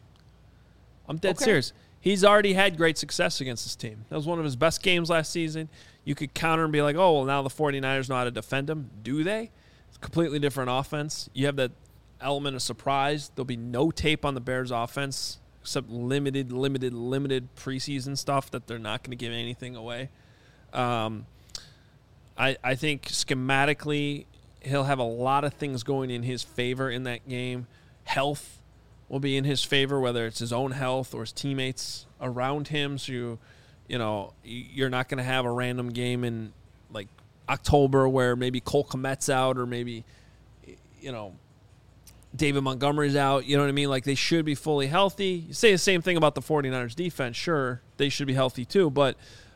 I'm dead Okay. serious. He's already had great success against this team. That was one of his best games last season. You could counter and be like, oh, well, now the 49ers know how to defend him. Do they? It's a completely different offense. You have that element of surprise. There'll be no tape on the Bears' offense except limited, limited, limited preseason stuff that they're not going to give anything away. Um I, I think schematically he'll have a lot of things going in his favor in that game. Health will be in his favor, whether it's his own health or his teammates around him. So, you, you know, you're not going to have a random game in, like, October where maybe Cole Kmet's out or maybe, you know, David Montgomery's out. You know what I mean? Like, they should be fully healthy. You say the same thing about the 49ers defense. Sure, they should be healthy too, but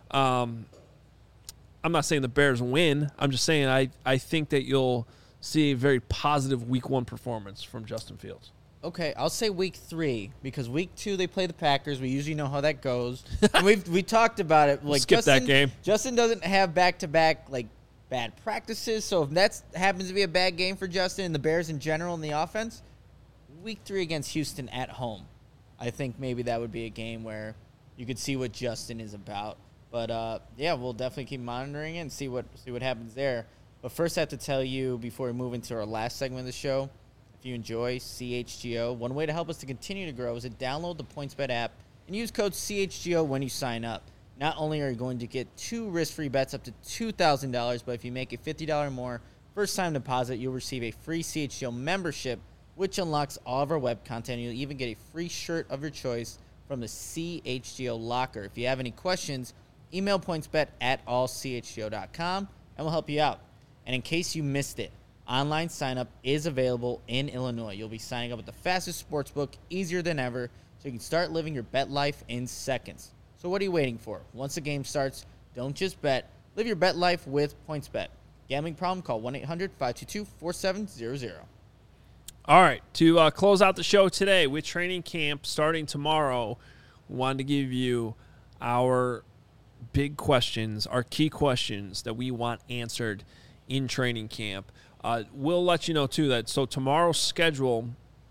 um, – I'm not saying the Bears win. I'm just saying I, I think that you'll see a very positive week one performance from Justin Fields. Okay, I'll say week three because week two they play the Packers. We usually know how that goes. And we've we talked about it. Like Skip Justin, that game. Justin doesn't have back to back like bad practices. So if that happens to be a bad game for Justin and the Bears in general in the offense, week three against Houston at home, I think maybe that would be a game where you could see what Justin is about. But, uh, yeah, we'll definitely keep monitoring it and see what see what happens there. But first I have to tell you, before we move into our last segment of the show, if you enjoy C H G O, one way to help us to continue to grow is to download the PointsBet app and use code C H G O when you sign up. Not only are you going to get two risk-free bets up to two thousand dollars, but if you make a fifty dollars or more first-time deposit, you'll receive a free C H G O membership, which unlocks all of our web content. You'll even get a free shirt of your choice from the C H G O locker. If you have any questions, email pointsbet at all c h g o dot com, and we'll help you out. And in case you missed it, online sign-up is available in Illinois. You'll be signing up with the fastest sportsbook, easier than ever, so you can start living your bet life in seconds. So what are you waiting for? Once the game starts, don't just bet. Live your bet life with PointsBet. Gambling problem? Call one eight hundred five two two four seven zero zero. All right, to uh, close out the show today with training camp starting tomorrow, we wanted to give you our big questions, our key questions that we want answered in training camp. Uh, we'll let you know, too, that so tomorrow's schedule,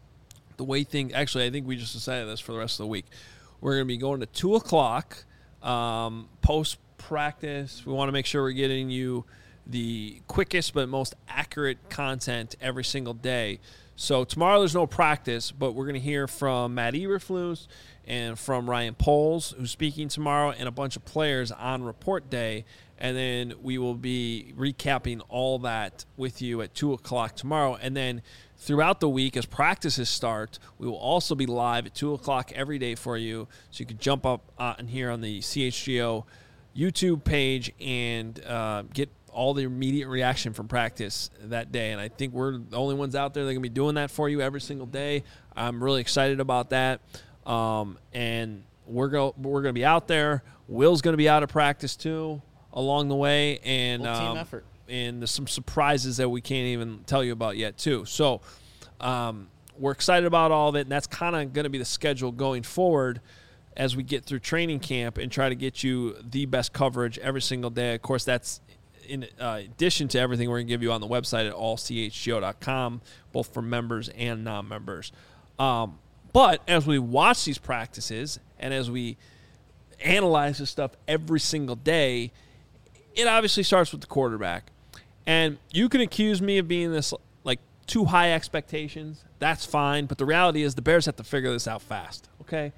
the way things, actually, I think we just decided this for the rest of the week. We're going to be going to two o'clock um, post-practice. We want to make sure we're getting you the quickest but most accurate content every single day. So tomorrow there's no practice, but we're going to hear from Matt Eberflus and from Ryan Poles, who's speaking tomorrow, and a bunch of players on report day. And then we will be recapping all that with you at two o'clock tomorrow. And then throughout the week, as practices start, we will also be live at two o'clock every day for you. So you can jump up uh, and here on the C H G O YouTube page and uh, get all the immediate reaction from practice that day. And I think we're the only ones out there that are going to be doing that for you every single day. I'm really excited about that. Um, and we're go we're going to be out there. Will's going to be out of practice too along the way, and Full team um, effort. And there's some surprises that we can't even tell you about yet too. So um, we're excited about all of it, and that's kind of going to be the schedule going forward. as we get through training camp and try to get you the best coverage every single day. Of course, that's in uh, addition to everything we're going to give you on the website at all c h g o dot com, both for members and non-members. Um, but as we watch these practices and as we analyze this stuff every single day, it obviously starts with the quarterback. And you can accuse me of being this, like, too high expectations. That's fine. But the reality is the Bears have to figure this out fast, okay?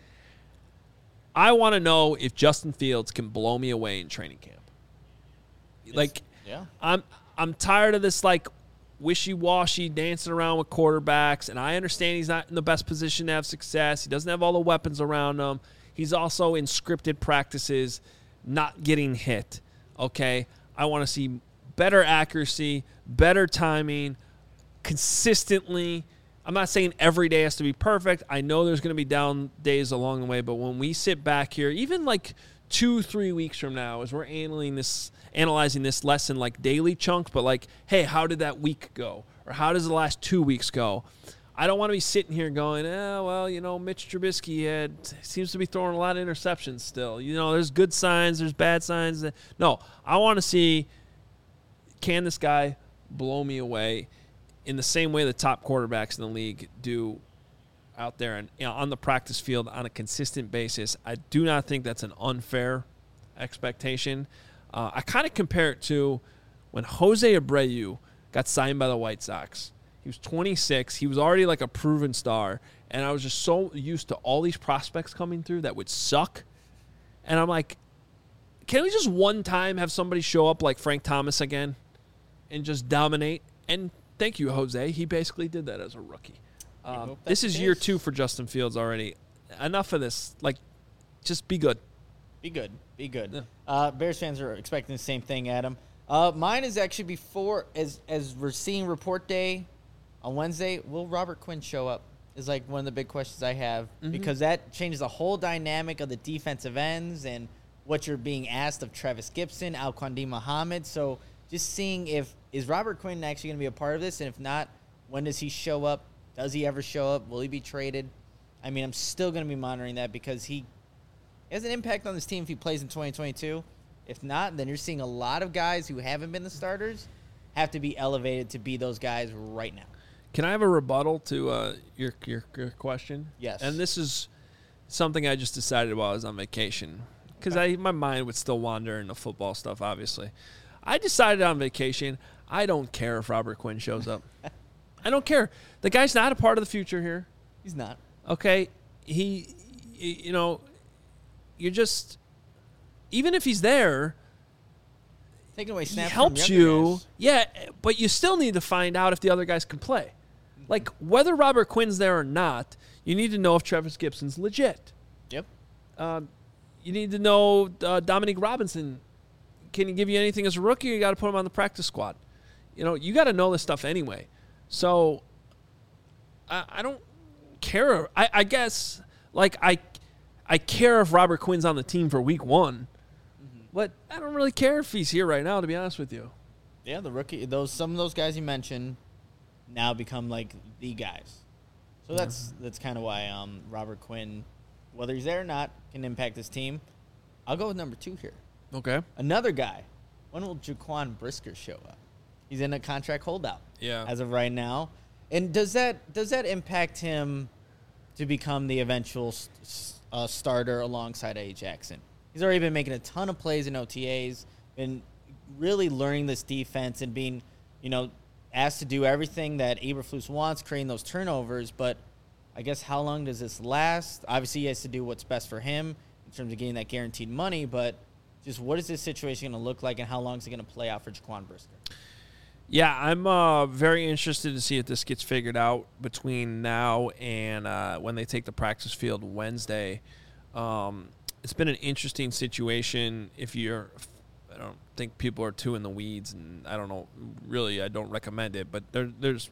I want to know if Justin Fields can blow me away in training camp. It's, like, yeah. I'm I'm tired of this, like, wishy-washy dancing around with quarterbacks, and I understand he's not in the best position to have success. He doesn't have all the weapons around him. He's also in scripted practices, not getting hit, okay? I want to see better accuracy, better timing, consistently. I'm not saying every day has to be perfect. I know there's going to be down days along the way, but when we sit back here, even like two, three weeks from now, as we're analyzing this, analyzing this lesson like daily chunks, but like, hey, how did that week go? Or how does the last two weeks go? I don't want to be sitting here going, eh, well, you know, Mitch Trubisky had, seems to be throwing a lot of interceptions still. You know, there's good signs, there's bad signs. No, I want to see, can this guy blow me away in the same way the top quarterbacks in the league do out there and, you know, on the practice field on a consistent basis. I do not think that's an unfair expectation. Uh, I kind of compare it to when Jose Abreu got signed by the White Sox. He was twenty-six. He was already like a proven star. And I was just so used to all these prospects coming through that would suck. And I'm like, can we just one time have somebody show up like Frank Thomas again and just dominate? And thank you, Jose. He basically did that as a rookie. Um, this is year two for Justin Fields already. Enough of this. Like, just be good. Be good. Be good. Yeah. Uh, Bears fans are expecting the same thing, Adam. Uh, mine is actually before, as as we're seeing report day on Wednesday, will Robert Quinn show up? Is like one of the big questions I have, mm-hmm. because that changes the whole dynamic of the defensive ends and what you're being asked of Travis Gibson, Alquan Muhammad. So just seeing if, is Robert Quinn actually going to be a part of this? And if not, when does he show up? Does he ever show up? Will he be traded? I mean, I'm still going to be monitoring that because he has an impact on this team if he plays in twenty twenty-two. If not, then you're seeing a lot of guys who haven't been the starters have to be elevated to be those guys right now. Can I have a rebuttal to uh, your, your your question? Yes. And this is something I just decided while I was on vacation because I my mind would still wander into football stuff, obviously. I decided on vacation, I don't care if Robert Quinn shows up. I don't care. The guy's not a part of the future here. He's not. Okay? He, you know, you're just, even if he's there, taking away snaps he helps from you. Guys. Yeah, but you still need to find out if the other guys can play. Like, whether Robert Quinn's there or not, you need to know if Travis Gibson's legit. Yep. Um, you need to know uh, Dominique Robinson. Can he give you anything as a rookie, or you got to put him on the practice squad? You know, you got to know this stuff anyway. So, I, I don't care. I, I guess, like, I I care if Robert Quinn's on the team for week one. Mm-hmm. But I don't really care if he's here right now, to be honest with you. Yeah, the rookie, those some of those guys you mentioned now become, like, the guys. So that's mm-hmm. that's kind of why um, Robert Quinn, whether he's there or not, can impact this team. I'll go with number two here. Okay. Another guy. When will Jaquan Brisker show up? He's in a contract holdout. Yeah. As of right now. And does that does that impact him to become the eventual uh, starter alongside A. Jackson? He's already been making a ton of plays in O T As, been really learning this defense and being, you know, asked to do everything that Eberflus wants, creating those turnovers. But I guess how long does this last? Obviously, he has to do what's best for him in terms of getting that guaranteed money, but just what is this situation going to look like and how long is it going to play out for Jaquan Brisker? Yeah, I'm uh, very interested to see if this gets figured out between now and uh, when they take the practice field Wednesday. Um, it's been an interesting situation. If you're, I don't think people are too in the weeds, and I don't know, really, I don't recommend it. But there, there's,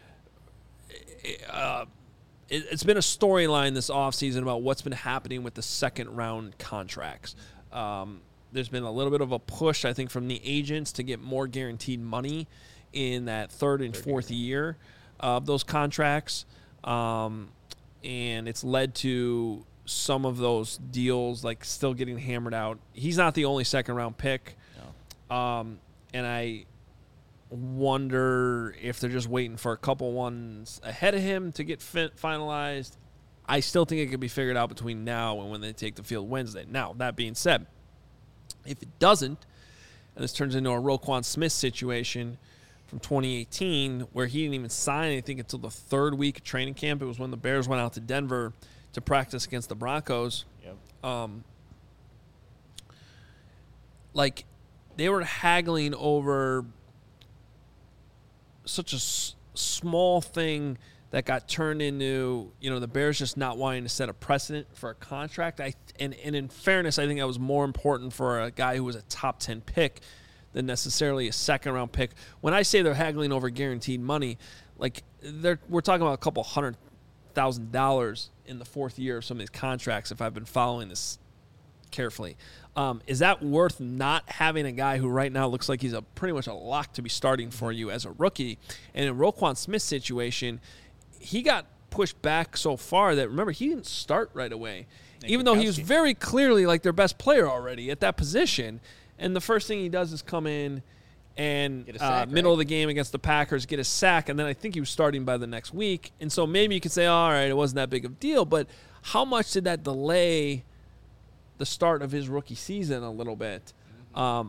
uh, it, it's been a storyline this offseason about what's been happening with the second round contracts. Um, There's been a little bit of a push, I think, from the agents to get more guaranteed money in that third and fourth year of those contracts. Um, and it's led to some of those deals like still getting hammered out. He's not the only second round pick. No. Um, and I wonder if they're just waiting for a couple ones ahead of him to get fin- finalized. I still think it could be figured out between now and when they take the field Wednesday. Now, that being said, if it doesn't, and this turns into a Roquan Smith situation from twenty eighteen where he didn't even sign anything until the third week of training camp. It was when the Bears went out to Denver to practice against the Broncos. Yep. Um, like, they were haggling over such a s- small thing that got turned into, you know, the Bears just not wanting to set a precedent for a contract. I and, and in fairness, I think that was more important for a guy who was a top ten pick than necessarily a second-round pick. When I say they're haggling over guaranteed money, like they're we're talking about a couple hundred thousand dollars in the fourth year of some of these contracts, if I've been following this carefully. Um, is that worth not having a guy who right now looks like he's a pretty much a lock to be starting for you as a rookie? And in Roquan Smith's situation, he got pushed back so far that, remember, he didn't start right away, Nick even though he was Gutowski. very clearly like their best player already at that position. And the first thing he does is come in and Get a uh, sack, middle right? of the game against the Packers, get a sack, and then I think he was starting by the next week. And so maybe you could say, all right, it wasn't that big of a deal, but how much did that delay the start of his rookie season a little bit? Um,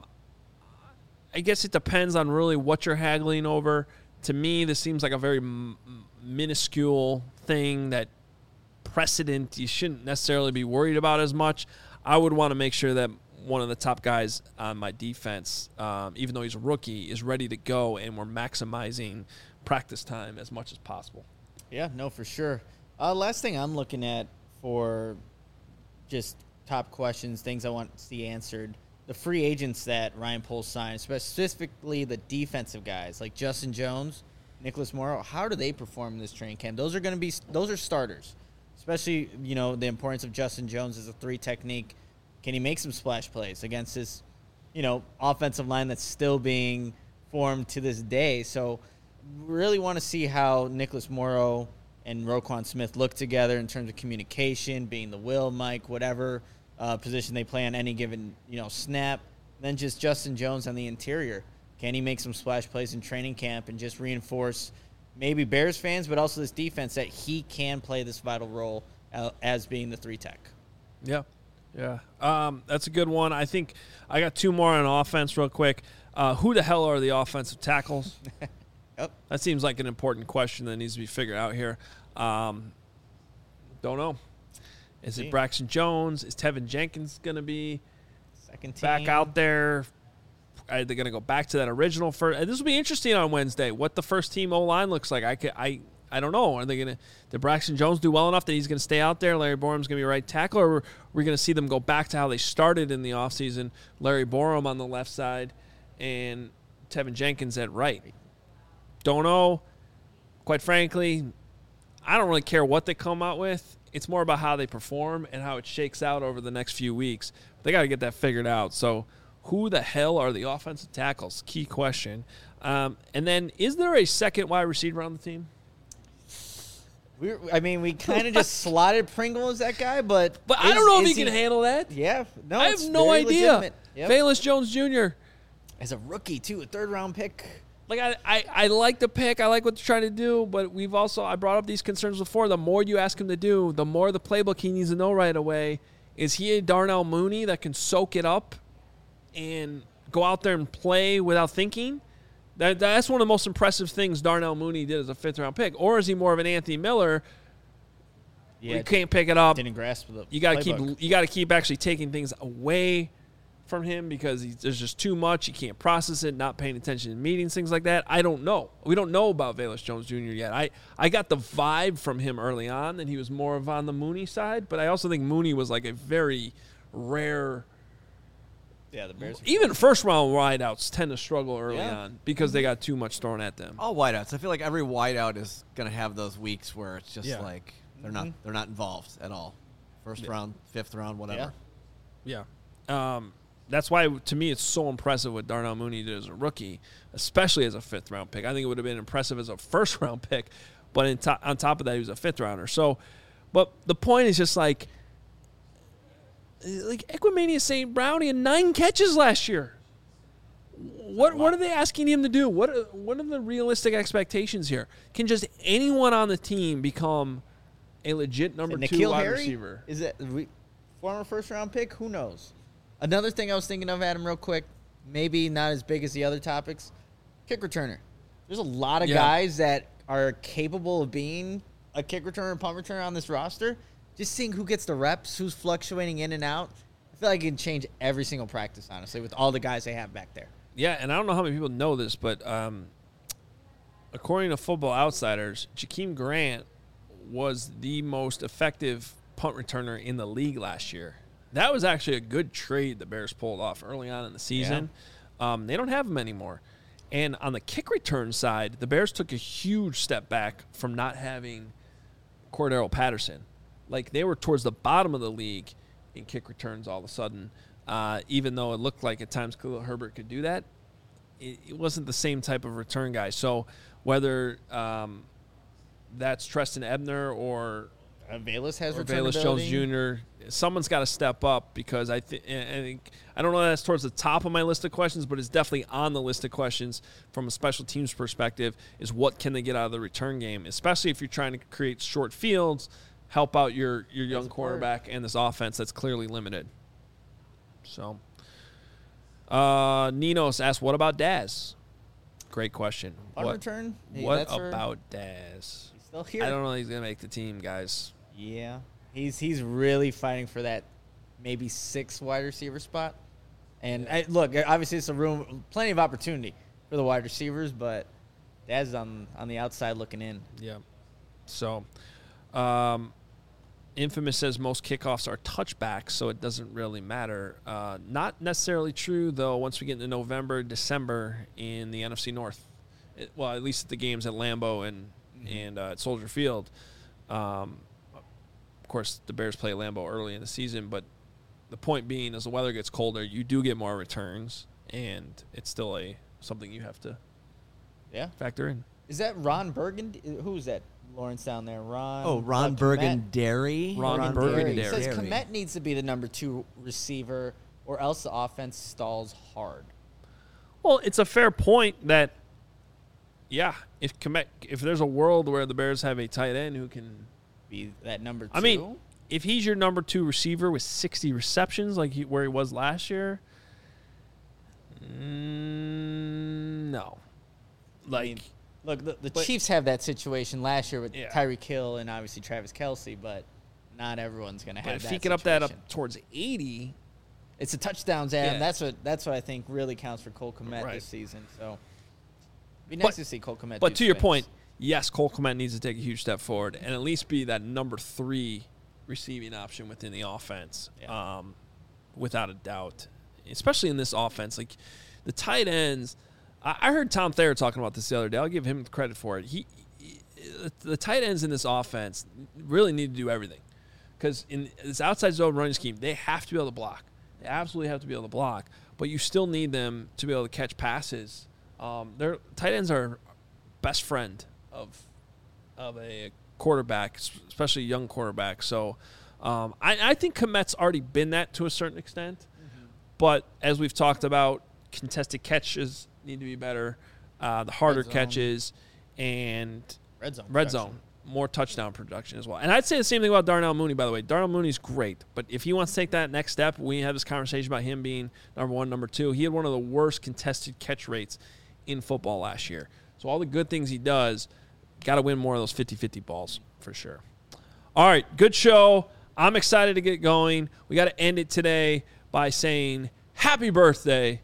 I guess it depends on really what you're haggling over. To me, this seems like a very m- minuscule thing that precedent you shouldn't necessarily be worried about as much. I would want to make sure that one of the top guys on my defense, um, even though he's a rookie, is ready to go, and we're maximizing practice time as much as possible. Yeah, no, for sure. Uh, last thing I'm looking at for just top questions, things I want to see answered, the free agents that Ryan Poles signed, specifically the defensive guys like Justin Jones, Nicholas Morrow, how do they perform in this training camp? Those are going to be those are starters, especially, you know, the importance of Justin Jones as a three technique. Can he make some splash plays against this, you know, offensive line that's still being formed to this day? So really want to see how Nicholas Morrow and Roquan Smith look together in terms of communication, being the will, Mike, whatever uh, position they play on any given, you know, snap. Then just Justin Jones on the interior. Can he make some splash plays in training camp and just reinforce maybe Bears fans, but also this defense that he can play this vital role uh, as being the three tech? Yeah. Yeah, um, that's a good one. I think I got two more on offense real quick. Uh, who the hell are the offensive tackles? Yep. That seems like an important question that needs to be figured out here. Um, don't know. Is it Braxton Jones? Is Tevin Jenkins going to be Second team. back out there? Are they going to go back to that original first? And this will be interesting on Wednesday, what the first team O-line looks like. I, could, I I don't know. Are they going to – did Braxton Jones do well enough that he's going to stay out there? Larry Borum's going to be right tackle? Or are we going to see them go back to how they started in the offseason? Larry Borum on the left side and Tevin Jenkins at right. Don't know. Quite frankly, I don't really care what they come out with. It's more about how they perform and how it shakes out over the next few weeks. They got to get that figured out. So who the hell are the offensive tackles? Key question. Um, and then is there a second wide receiver on the team? We, I mean, we kind of just slotted Pringle as that guy, but But I is- don't know if is he can handle that. Yeah, no, I it's have no very idea. legitimate. Yep. Valus Jones Junior As a rookie too, a third round pick. Like I, I, I like the pick. I like what they're trying to do, but we've also I brought up these concerns before. The more you ask him to do, the more the playbook he needs to know right away. Is he a Darnell Mooney that can soak it up and go out there and play without thinking? That that's one of the most impressive things Darnell Mooney did as a fifth round pick. Or is he more of an Anthony Miller? Yeah, You can't pick it up. didn't grasp the. You got to playbook. keep you got to keep actually taking things away from him because he's, there's just too much. You can't process it, not paying attention in meetings, things like that. I don't know. We don't know about Valus Jones Junior yet. I, I got the vibe from him early on that he was more of on the Mooney side, but I also think Mooney was like a very rare Yeah, the Bears. even first round wideouts tend to struggle early Yeah. on because they got too much thrown at them. All wideouts. I feel like every wideout is going to have those weeks where it's just Yeah. like they're not they're not involved at all. First Yeah. round, fifth round, whatever. Yeah. Um, that's why, to me, it's so impressive what Darnell Mooney did as a rookie, especially as a fifth-round pick. I think it would have been impressive as a first-round pick, but in to- on top of that, he was a fifth-rounder. So, but the point is just like like Equimania Saint Brownie had nine catches last year. What what are they asking him to do? What are, what are the realistic expectations here? Can just anyone on the team become a legit number two Nikhil wide Harry? receiver? Is that we, former first round pick? Who knows? Another thing I was thinking of, Adam, real quick, maybe not as big as the other topics, kick returner. There's a lot of Yeah. guys that are capable of being a kick returner and punt returner on this roster. Just seeing who gets the reps, who's fluctuating in and out. I feel like it can change every single practice, honestly, with all the guys they have back there. Yeah, and I don't know how many people know this, but um, according to Football Outsiders, Jakeem Grant was the most effective punt returner in the league last year. That was actually a good trade the Bears pulled off early on in the season. Yeah. Um, they don't have him anymore. And on the kick return side, the Bears took a huge step back from not having Cordero Patterson. Like, they were towards the bottom of the league in kick returns all of a sudden. Uh, even though it looked like at times Khalil Herbert could do that, it, it wasn't the same type of return guy. So whether um, that's Treston Ebner or Uh, Velus has or return Velus Jones ability. Junior, someone's got to step up because I, th- I think I don't know if that's towards the top of my list of questions, but it's definitely on the list of questions from a special teams perspective is what can they get out of the return game, especially if you're trying to create short fields, help out your, your young quarterback and this offense that's clearly limited. So, uh, Ninos asked, what about Daz? Great question. Punt what return? Hey, what that's for- about Daz? He's still here. I don't know if he's going to make the team, guys. Yeah, he's he's really fighting for that maybe six wide receiver spot. And I, look, obviously it's a room, plenty of opportunity for the wide receivers, but Daz is on on the outside looking in. Yeah. So, um, Infamous says most kickoffs are touchbacks, so it doesn't really matter. Uh, not necessarily true, though, once we get into November, December in the N F C North. It, well, at least at the games at Lambeau and, mm-hmm. and uh, at Soldier Field. Um, of course, the Bears play Lambeau early in the season, but the point being, as the weather gets colder, you do get more returns, and it's still a something you have to yeah. factor in. Is that Ron Burgundy? Who's that? Lawrence down there. Ron. Oh, Ron uh, Burgundy. Ron, Ron Burgundy. He says Kmet needs to be the number two receiver, or else the offense stalls hard. Well, it's a fair point that, yeah, if Kmet, if there's a world where the Bears have a tight end who can be that number two. I mean, if he's your number two receiver with sixty receptions, like he, where he was last year, mm, no. Like, I mean, look, the, the but, Chiefs have that situation last year with yeah. Tyreek Hill and obviously Travis Kelce, but not everyone's going to have but that if he can up that up towards eighty, it's the touchdowns, Adam. Yeah. That's what that's what I think really counts for Cole Kmet Right. this season. So, it'd be nice But- to see Cole Kmet. But do to your things. point, yes, Cole Kmet needs to take a huge step forward and at least be that number three receiving option within the offense, Yeah. um, without a doubt. Especially in this offense, like the tight ends. I, I heard Tom Thayer talking about this the other day. I'll give him credit for it. He, he the tight ends in this offense really need to do everything because in this outside zone running scheme, they have to be able to block. They absolutely have to be able to block, but you still need them to be able to catch passes. Um, their tight ends are best friend of of a quarterback, especially a young quarterback. So um, I, I think Kmet's already been that to a certain extent. Mm-hmm. But as we've talked about, contested catches need to be better, uh, the harder Red zone. catches, and red zone, red production. zone, more touchdown production as well. And I'd say the same thing about Darnell Mooney, by the way. Darnell Mooney's great, but if he wants to take that next step, we have this conversation about him being number one, number two. He had one of the worst contested catch rates in football last year. So all the good things he does, got to win more of those fifty-fifty balls for sure. All right, good show. I'm excited to get going. We got to end it today by saying happy birthday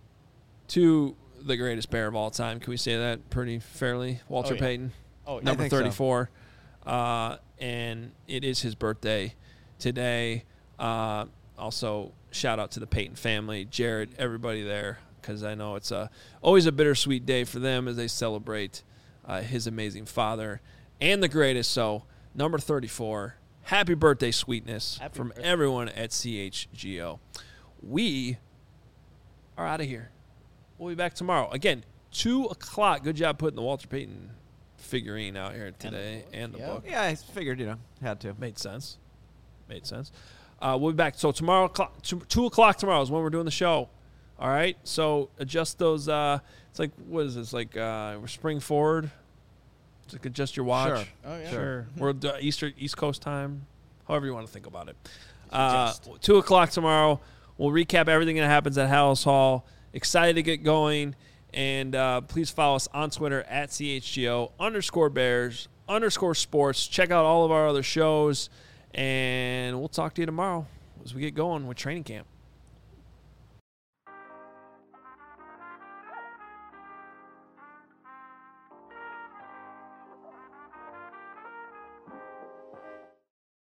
to the greatest Bear of all time. Can we say that pretty fairly? Walter Oh, yeah. Payton, Oh, yeah. number I think so. thirty-four. Uh, and it is his birthday today. Uh, also, shout out to the Payton family, Jared, everybody there, because I know it's a, always a bittersweet day for them as they celebrate uh, his amazing father and the greatest. So, number thirty-four, happy birthday, sweetness, Happy from birthday. everyone at C H G O. We are out of here. We'll be back tomorrow. Again, two o'clock. Good job putting the Walter Payton figurine out here today and the, yeah. book. Yeah, I figured, you know, had to. Made sense. Made sense. Uh, we'll be back. So tomorrow, two o'clock tomorrow is when we're doing the show. All right. So adjust those. Uh, it's like, what is this? Like uh, we're spring forward. It's like adjust your watch. Sure. Oh, yeah. Sure. We're uh, Easter, East Coast time. However you want to think about it. Uh, two o'clock tomorrow. We'll recap everything that happens at Hallis Hall. Excited to get going. And uh, please follow us on Twitter at C H G O underscore Bears underscore sports. Check out all of our other shows. And we'll talk to you tomorrow as we get going with training camp.